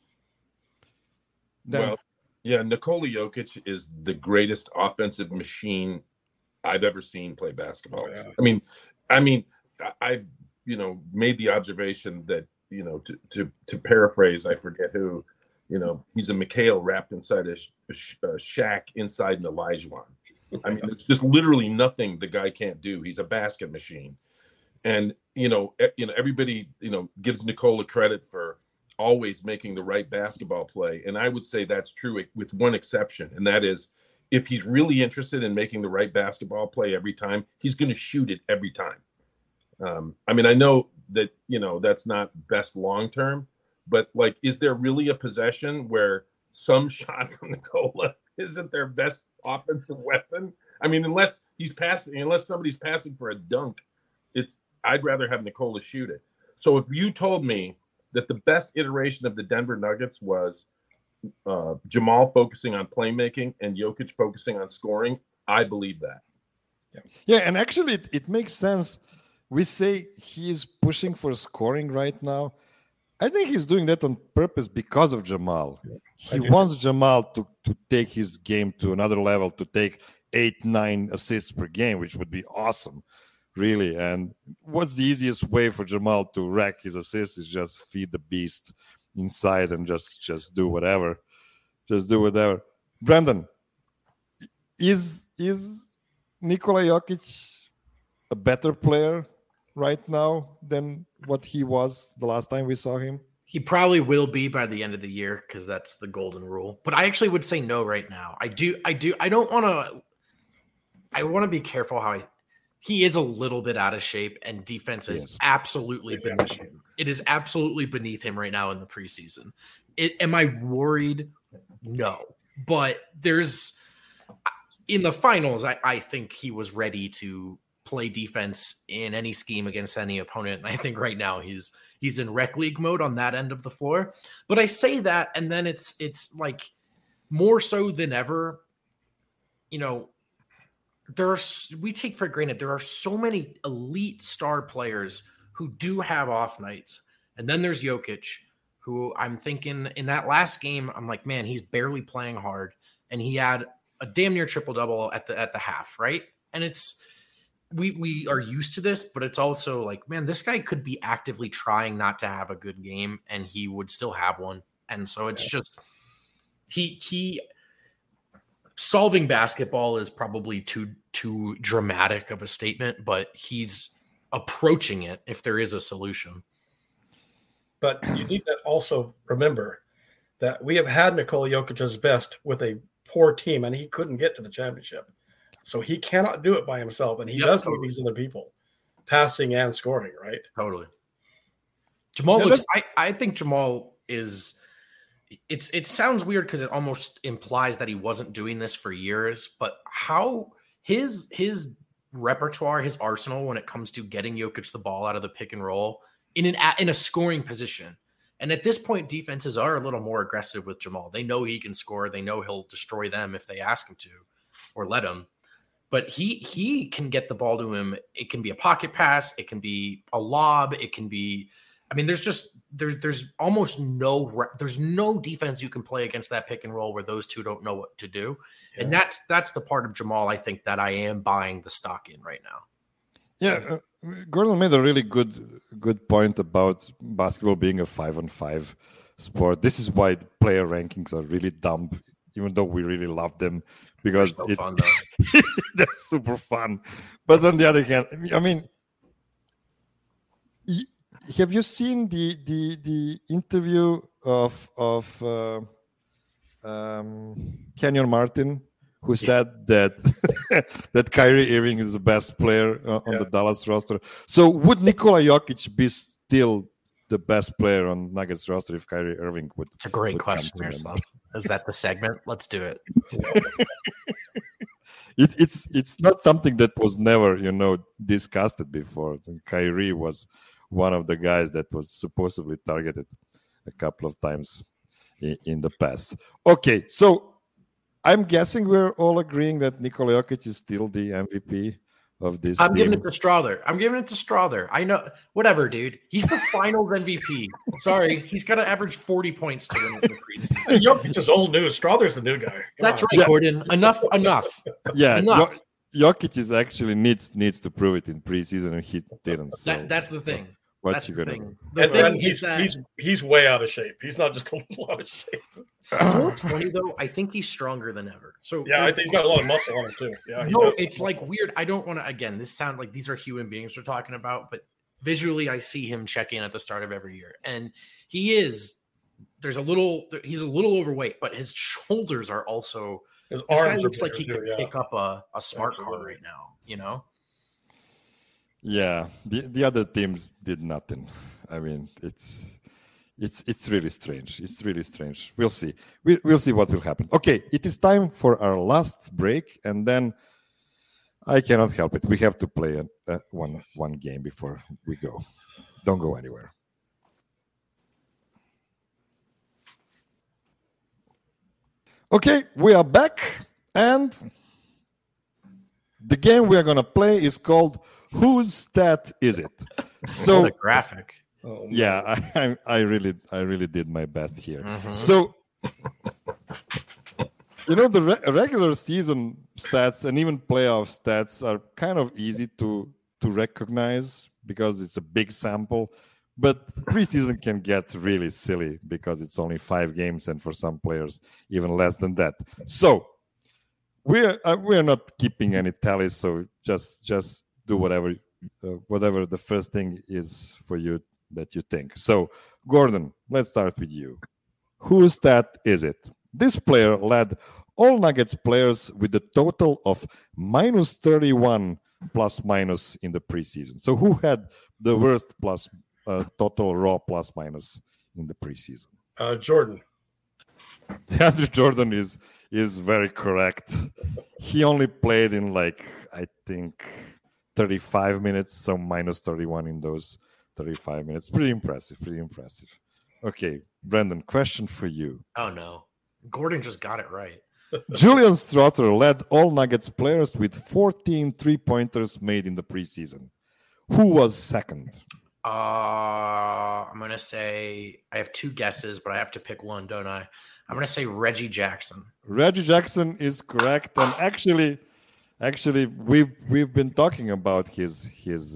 Well, yeah, Nikola Jokic is the greatest offensive machine I've ever seen play basketball. Oh, yeah. I mean, made the observation that, to paraphrase, I forget who, he's a McHale wrapped inside a shack inside an Olajuwon. I mean, there's just literally nothing the guy can't do. He's a basket machine. And, everybody, gives Nikola credit for always making the right basketball play. And I would say that's true with one exception. And that is, if he's really interested in making the right basketball play every time, he's going to shoot it every time. I mean, I know that, that's not best long-term, but like, is there really a possession where some shot from Nikola isn't their best offensive weapon? I mean, unless somebody's passing for a dunk, I'd rather have Nikola shoot it. So if you told me that the best iteration of the Denver Nuggets was Jamal focusing on playmaking and Jokic focusing on scoring, I believe that. Yeah, and actually it makes sense. We say he's pushing for scoring right now. I think he's doing that on purpose because of Jamal. He wants Jamal to take his game to another level, to take 8-9 assists per game, which would be awesome, really. And what's the easiest way for Jamal to rack his assists is just feed the beast inside and just do whatever. Just do whatever. Brandon, is Nikola Jokic a better player right now than what he was the last time we saw him? He probably will be by the end of the year because that's the golden rule. But I actually would say no right now. I want to be careful how he is a little bit out of shape, and defense is absolutely beneath him. It is absolutely beneath him right now in the preseason. Am I worried? No. But in the finals, I think he was ready to play defense in any scheme against any opponent. And I think right now he's in rec league mode on that end of the floor. But I say that, and then it's like more so than ever, we take for granted there are so many elite star players who do have off nights. And then there's Jokic, who I'm thinking in that last game, I'm like, man, he's barely playing hard. And he had a damn near triple-double at the half, right? And it's we are used to this, but it's also like, man, this guy could be actively trying not to have a good game and he would still have one. And so it's just he solving basketball is probably too dramatic of a statement, but he's approaching it if there is a solution. But you need to also remember that we have had Nikola Jokic's best with a poor team, and he couldn't get to the championship. So he cannot do it by himself, and he does need these other people, passing and scoring, right? Totally. Jamal I think Jamal is – it sounds weird because it almost implies that he wasn't doing this for years, but how his repertoire, his arsenal when it comes to getting Jokic the ball out of the pick and roll in a scoring position. And at this point, defenses are a little more aggressive with Jamal. They know he can score. They know he'll destroy them if they ask him to or let him. But he can get the ball to him. It can be a pocket pass. It can be a lob. It can be – I mean, there's almost there's no defense you can play against that pick and roll where those two don't know what to do. Yeah. And that's the part of Jamal I think that I am buying the stock in right now. Yeah, Gordon made a really good point about basketball being a 5-on-5 sport. This is why the player rankings are really dumb, even though we really love them because they're so fun, though. They're super fun. But on the other hand, I mean, have you seen the interview of Kenyon Martin, who said that that Kyrie Irving is the best player on the Dallas roster? So would Nikola Jokic be still the best player on Nuggets roster if Kyrie Irving would? It's a great question, Miroslav. Is that the segment? Let's do it. It's not something that was never discussed before. And Kyrie was one of the guys that was supposedly targeted a couple of times in the past. Okay, so I'm guessing we're all agreeing that Nikola Jokic is still the MVP of this team. Giving it to Strother. I know. Whatever, dude. He's the finals MVP. Sorry. He's got to average 40 points to win in the preseason. Jokic is old news. Strother's the new guy. That's right, Gordon. Enough. Yeah. Enough. Jokic is actually needs to prove it in preseason, and he didn't. So. That's the thing. What That's you the gonna do? thing. And The then thing is that he's way out of shape. He's not just a little out of shape. you know what's funny though? I think he's stronger than ever. So Yeah, I think he's got a lot of muscle on him too. Yeah, he no, does. it's like weird. I don't want to. Again, this sound like these are human beings we're talking about, but visually, I see him check in at the start of every year, and he is. He's a little overweight, but his shoulders are also. His This guy arms looks are like he bigger, could too, pick up a smart car Absolutely. right now. You know. Yeah, the other teams did nothing. I mean, it's really strange. It's really strange. We'll see. We'll see what will happen. Okay, it is time for our last break, and then I cannot help it. We have to play one game before we go. Don't go anywhere. Okay, we are back, and the game we are going to play is called Whose Stat Is It? So What a graphic. Oh, man. yeah, I really did my best here. Mhm. So the regular season stats and even playoff stats are kind of easy to recognize because it's a big sample, but preseason can get really silly because it's only 5 games and for some players even less than that. So we're not keeping any tallies, so just do whatever the first thing is for you that you think. So Gordon, let's start with you. Whose stat is it? This player led all Nuggets players with a total of minus 31 plus minus in the preseason. So who had the worst plus total raw plus minus in the preseason? Jordan. DeAndre Jordan is very correct. He only played in I think 35 minutes, so minus 31 in those 35 minutes. Pretty impressive. Okay, Brendan, question for you. Oh no, Gordon just got it right. Julian Strother led all Nuggets players with 14 3-pointers made in the preseason. Who was second? I'm gonna say I have 2 guesses, but I have to pick one, don't I? I'm gonna say Reggie Jackson. Reggie Jackson is correct, and actually, we've been talking about his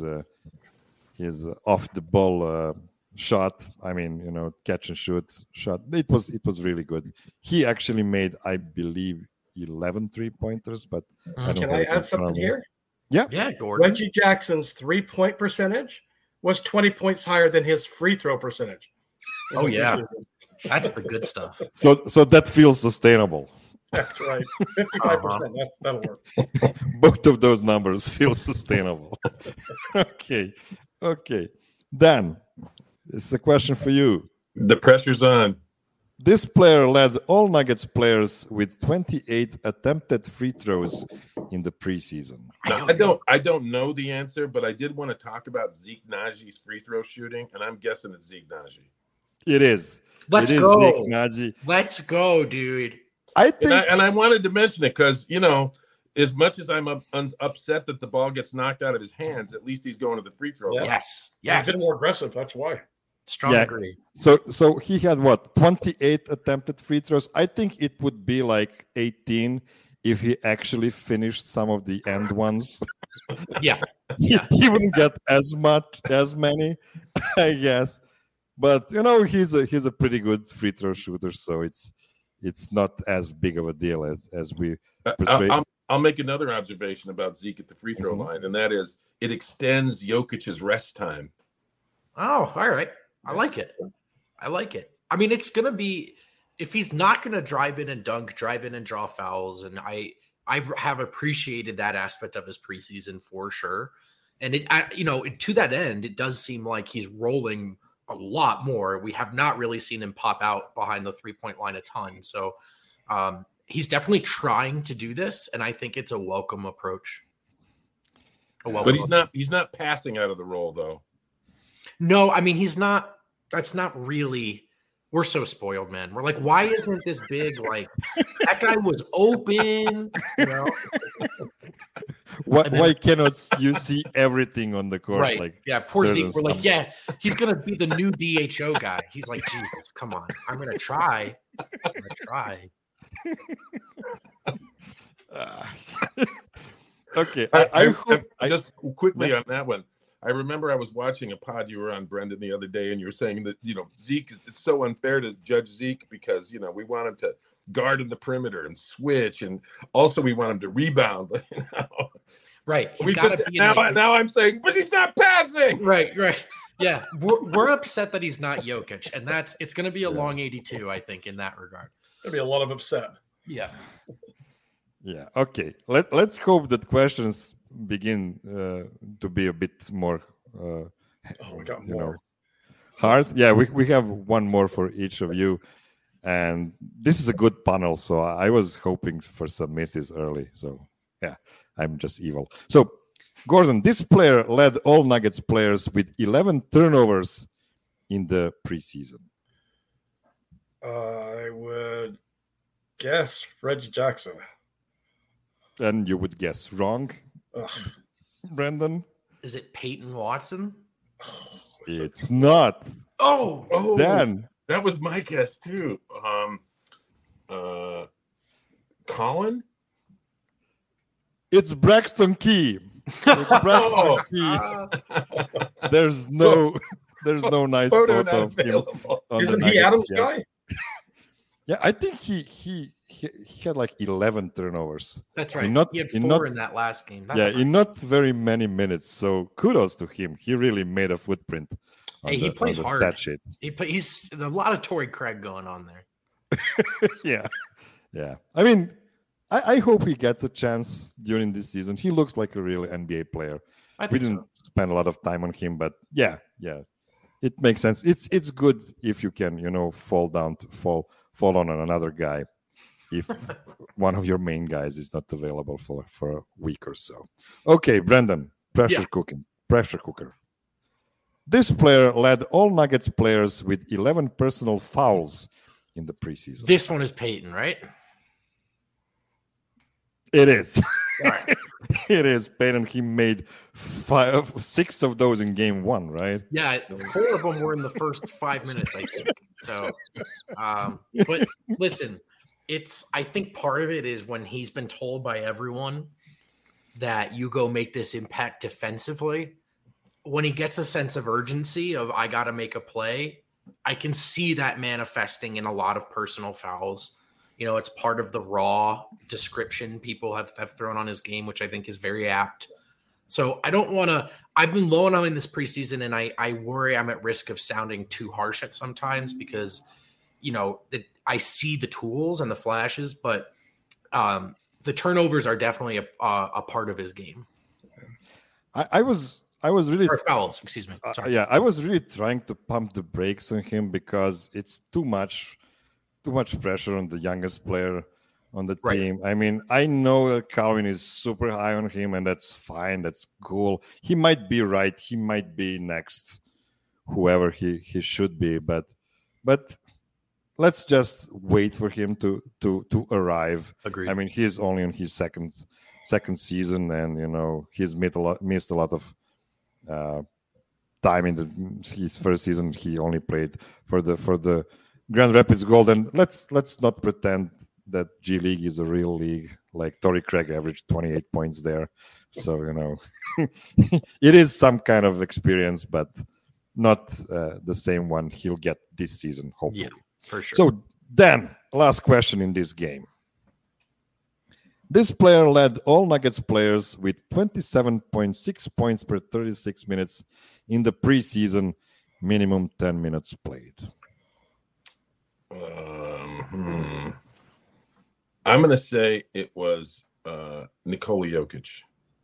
off the ball shot. I mean, catch and shoot shot. It was really good. He actually made, I believe, 11 3-pointers. But I don't Can have I it in add front something of me. here? Yeah, Gordon. Reggie Jackson's 3-point percentage was 20 points higher than his free throw percentage. in Oh, the yeah. preseason. That's the good stuff. So that feels sustainable. That's right. 55%. That'll work. Both of those numbers feel sustainable. Okay. Dan, this is a question for you. The pressure's on. This player led all Nuggets players with 28 attempted free throws in the preseason. Now, I don't know the answer, but I did want to talk about Zeke Najee's free throw shooting, and I'm guessing it's Zeke Naji. It is. Let's It is go. Zeke Naji. Let's go, dude. I think And I wanted to mention it because, as much as I'm upset that the ball gets knocked out of his hands, at least he's going to the free throw Yeah. line. Yes. He's Yes. been more aggressive. That's why. Strong Yeah. agree. so. He had 28 attempted free throws. I think it would be like 18 if he actually finished some of the end ones. Yeah. He wouldn't get as many, I guess. But he's a pretty good free throw shooter, so it's not as big of a deal as we portray. I'll make another observation about Zeke at the free throw line, and that is it extends Jokic's rest time. Oh, all right. I like it. I mean, it's going to be, if he's not going to drive in and dunk, drive in and draw fouls, and I have appreciated that aspect of his preseason for sure. And to that end, it does seem like he's rolling a lot more. We have not really seen him pop out behind the 3-point line a ton. So he's definitely trying to do this, and I think it's a welcome approach. But he's not passing out of the roll though. No, I mean, he's not. That's not really. We're so spoiled, man. We're like, why isn't this big? Like, that guy was open. Why cannot you see everything on the court? Right. Like, yeah, poor there's Zeke. We're like, some- yeah, he's going to be the new DHO guy. He's like, Jesus, come on. I'm going to try. Okay. I hope- just quickly on that one. I remember I was watching a pod you were on, Brendan, the other day, and you were saying that, Zeke, it's so unfair to judge Zeke because, we want him to guard in the perimeter and switch. And also we want him to rebound. Right. He's got to be now I'm saying, but he's not passing. Right. Yeah. We're upset that he's not Jokic. And it's going to be a long 82, I think, in that regard. There'll be a lot of upset. Yeah. Yeah. Okay. Let's hope that questions begin to be a bit more. We got more. Hard. Yeah. We have one more for each of you, and this is a good panel. So I was hoping for some misses early. So yeah, I'm just evil. So Gordon, this player led all Nuggets players with 11 turnovers in the preseason. I would guess Reggie Jackson. And you would guess wrong. Ugh. Brendan? Is it Peyton Watson? It's not. Oh, Dan. That was my guess too. Colin? It's Braxton Key. There's no nice photo of him. Isn't he Adam's guy? Yeah, I think he had like 11 turnovers. That's right. He had 4 in that last game. In not very many minutes. So kudos to him. He really made a footprint. He plays hard. Stat sheet. He's a lot of Torrey Craig going on there. Yeah. I mean, I hope he gets a chance during this season. He looks like a real NBA player. We didn't spend a lot of time on him, but yeah, it makes sense. It's good if you can, fall on another guy if one of your main guys is not available for a week or so. Okay, Brendan, pressure cooker. This player led all Nuggets players with 11 personal fouls in the preseason. This one is Peyton, right? It is. All right. It is. Peyton, he made 6 of those in game 1, right? Yeah, 4 of them were in the first 5 minutes, I think. So, but listen, I think part of it is when he's been told by everyone that you go make this impact defensively, when he gets a sense of urgency of I got to make a play, I can see that manifesting in a lot of personal fouls. It's part of the raw description people have thrown on his game, which I think is very apt. So I don't want to – I've been low on him in this preseason, and I worry I'm at risk of sounding too harsh at sometimes because, I see the tools and the flashes, but the turnovers are definitely a part of his game. I was really – or fouls, excuse me. Sorry. I was really trying to pump the brakes on him because it's too much pressure on the youngest player on the team. I mean, I know that Calvin is super high on him, and that's fine. That's cool. He might be right. He might be next, whoever he should be. But let's just wait for him to arrive. Agreed. I mean, he's only in his second season, and he's missed a lot of time in his first season. He only played for the Grand Rapids Gold, and let's not pretend that G League is a real league. Like Torrey Craig averaged 28 points there, so it is some kind of experience, but not the same one he'll get this season, hopefully. Yeah, for sure. So Dan, last question in this game. This player led all Nuggets players with 27.6 points per 36 minutes in the preseason, minimum 10 minutes played. I'm going to say it was Nikola Jokic.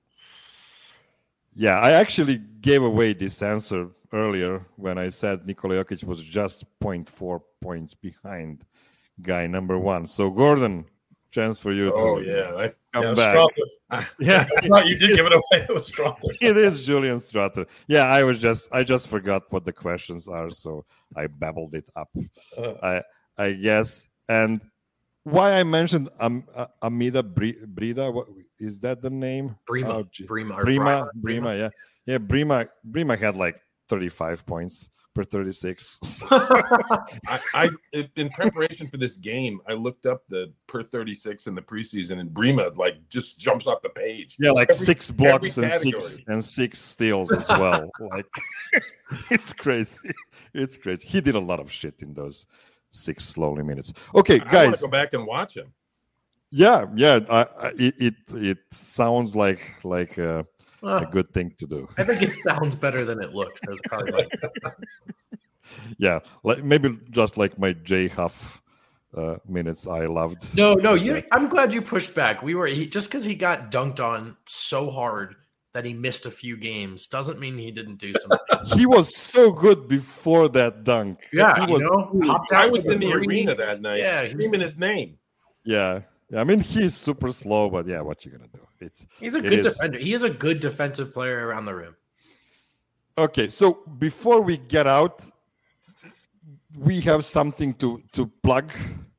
Yeah, I actually gave away this answer earlier when I said Nikola Jokic was just 0.4 points behind guy number 1. So, Gordon, chance for you to come back. Yeah, you did give it away. It was Strawther. It is Julian Strawther. Yeah, I just forgot what the questions are, so I babbled it up. I guess. And why I mentioned Amida Brida, what is that the name? Brima. Brima, yeah. Yeah, Brima had like 35 points per 36. I in preparation for this game, I looked up the per 36 in the preseason, and Brima like just jumps off the page. Yeah, like 6 blocks and category. 6 steals as well. Like it's crazy. It's crazy. He did a lot of shit in those 6 lonely minutes. Okay, I want guys. to go back and watch him. Yeah. It sounds like a good thing to do. I think it sounds better than it looks. That's probably like Yeah, like maybe just like my J Huff minutes I loved. No, I'm glad you pushed back. Just because he got dunked on so hard that he missed a few games doesn't mean he didn't do something. He was so good before that dunk. Yeah, he was. I was in the arena that night. Yeah, screaming his name. Yeah, I mean he's super slow, but yeah, what you gonna do? He's a good defender. He is a good defensive player around the rim. Okay, so before we get out, we have something to plug.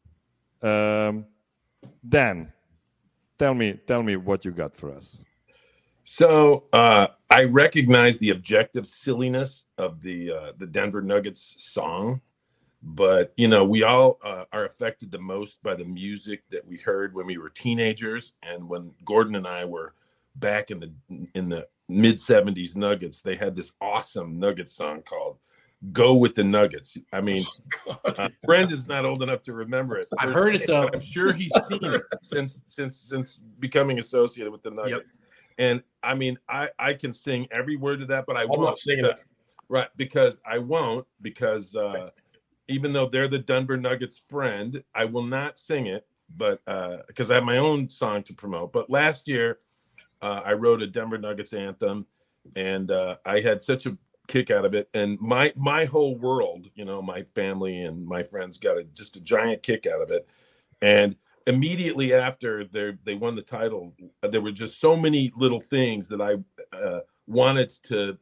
Dan, tell me what you got for us. So I recognize the objective silliness of the Denver Nuggets song, but we all are affected the most by the music that we heard when we were teenagers, and when Gordon and I were back in the mid '70s Nuggets, they had this awesome Nuggets song called "Go with the Nuggets." I mean, Brendan's not old enough to remember it. I've heard it though. I'm sure he's seen it since becoming associated with the Nuggets. Yep. And I mean, I can sing every word of that, but I'm not singing it. Right, because I won't, because even though they're the Denver Nuggets friend, I will not sing it, but because I have my own song to promote. But last year, I wrote a Denver Nuggets anthem, and I had such a kick out of it. And my whole world, my family and my friends got just a giant kick out of it. And immediately after they won the title, there were just so many little things that I wanted to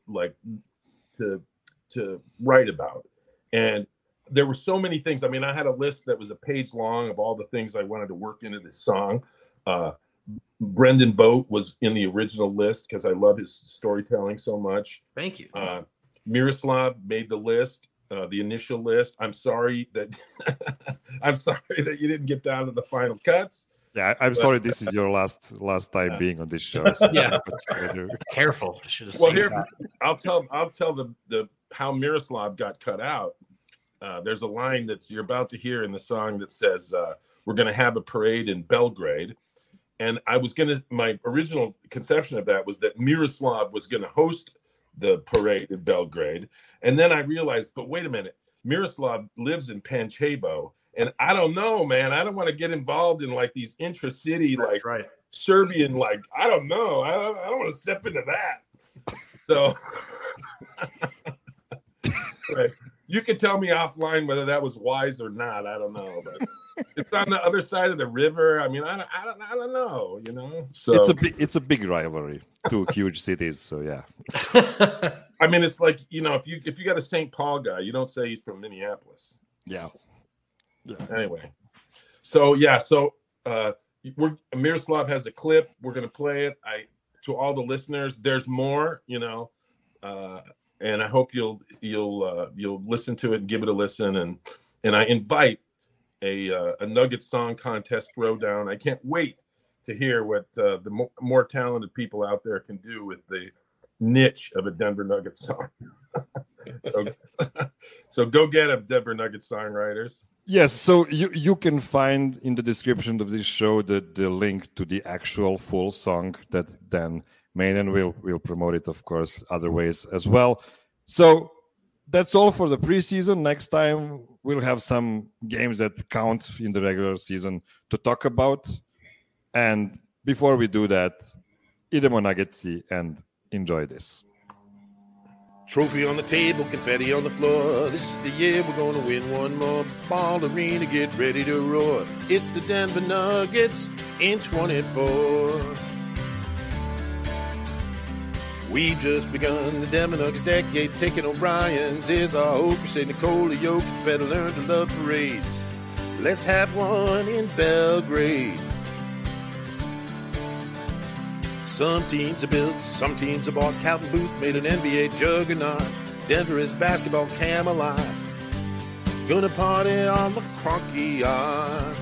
write about, and there were so many things. I mean, I had a list that was a page long of all the things I wanted to work into this song. Brendan Boat was in the original list because I love his storytelling so much. Thank you. Miroslav made the list. The initial list. I'm sorry that you didn't get down to the final cuts. Yeah, I'm sorry. This is your last time being on this show. So yeah, careful. Well, here I'll tell the how Miroslav got cut out. There's a line you're about to hear in the song that says, "We're going to have a parade in Belgrade," and my original conception of that was that Miroslav was going to host the parade in Belgrade. And then I realized, but wait a minute, Miroslav lives in Pančevo, and I don't know, man. I don't want to get involved in like these intra-city, right. Serbian, I don't know. I don't want to step into that. So right. You can tell me offline whether that was wise or not. I don't know, but it's on the other side of the river. I mean, I don't know. So it's a big rivalry, 2 huge cities. So yeah. I mean, it's like, if you got a St. Paul guy, you don't say he's from Minneapolis. Yeah. Anyway, so yeah, Miroslav has a clip. We're gonna play it. To all the listeners, there's more. And I hope you'll listen to it and give it a listen. And I invite a Nuggets song contest throwdown. I can't wait to hear what the more talented people out there can do with the niche of a Denver Nuggets song. So go get them, Denver Nuggets songwriters. Yes, so you can find in the description of this show the link to the actual full song that then Maiden will promote it, of course, other ways as well. So that's all for the preseason. Next time we'll have some games that count in the regular season to talk about. And before we do that, idemo Nuggetsi and enjoy this. Trophy on the table, confetti on the floor. This is the year we're going to win one more. Ball arena, get ready to roar. It's the Denver Nuggets in 24. We've just begun the Denver Nuggets decade. Taking O'Brien's is our hope. You say Nikola Jokic better learn to love parades. Let's have one in Belgrade. Some teams are built, some teams are bought. Calvin Booth made an NBA juggernaut. Denver is basketball Camelot. Gonna party on the Cronky Yard.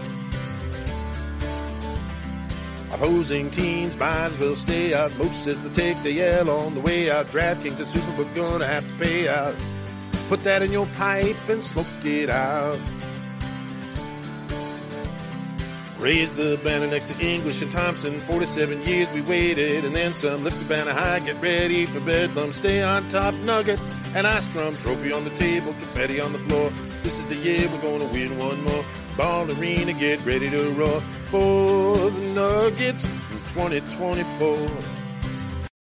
Opposing teams might as well stay out. Most says they'll take the L on the way out. DraftKings and Superbook gonna have to pay out. Put that in your pipe and smoke it out. Raise the banner next to English and Thompson. 47 years we waited and then some. Lift the banner high, get ready for bedlam. Stay on top, Nuggets, and I strum. Trophy on the table, confetti on the floor. This is the year we're gonna win one more. Ball Arena, get ready to roar for the Nuggets in 2024.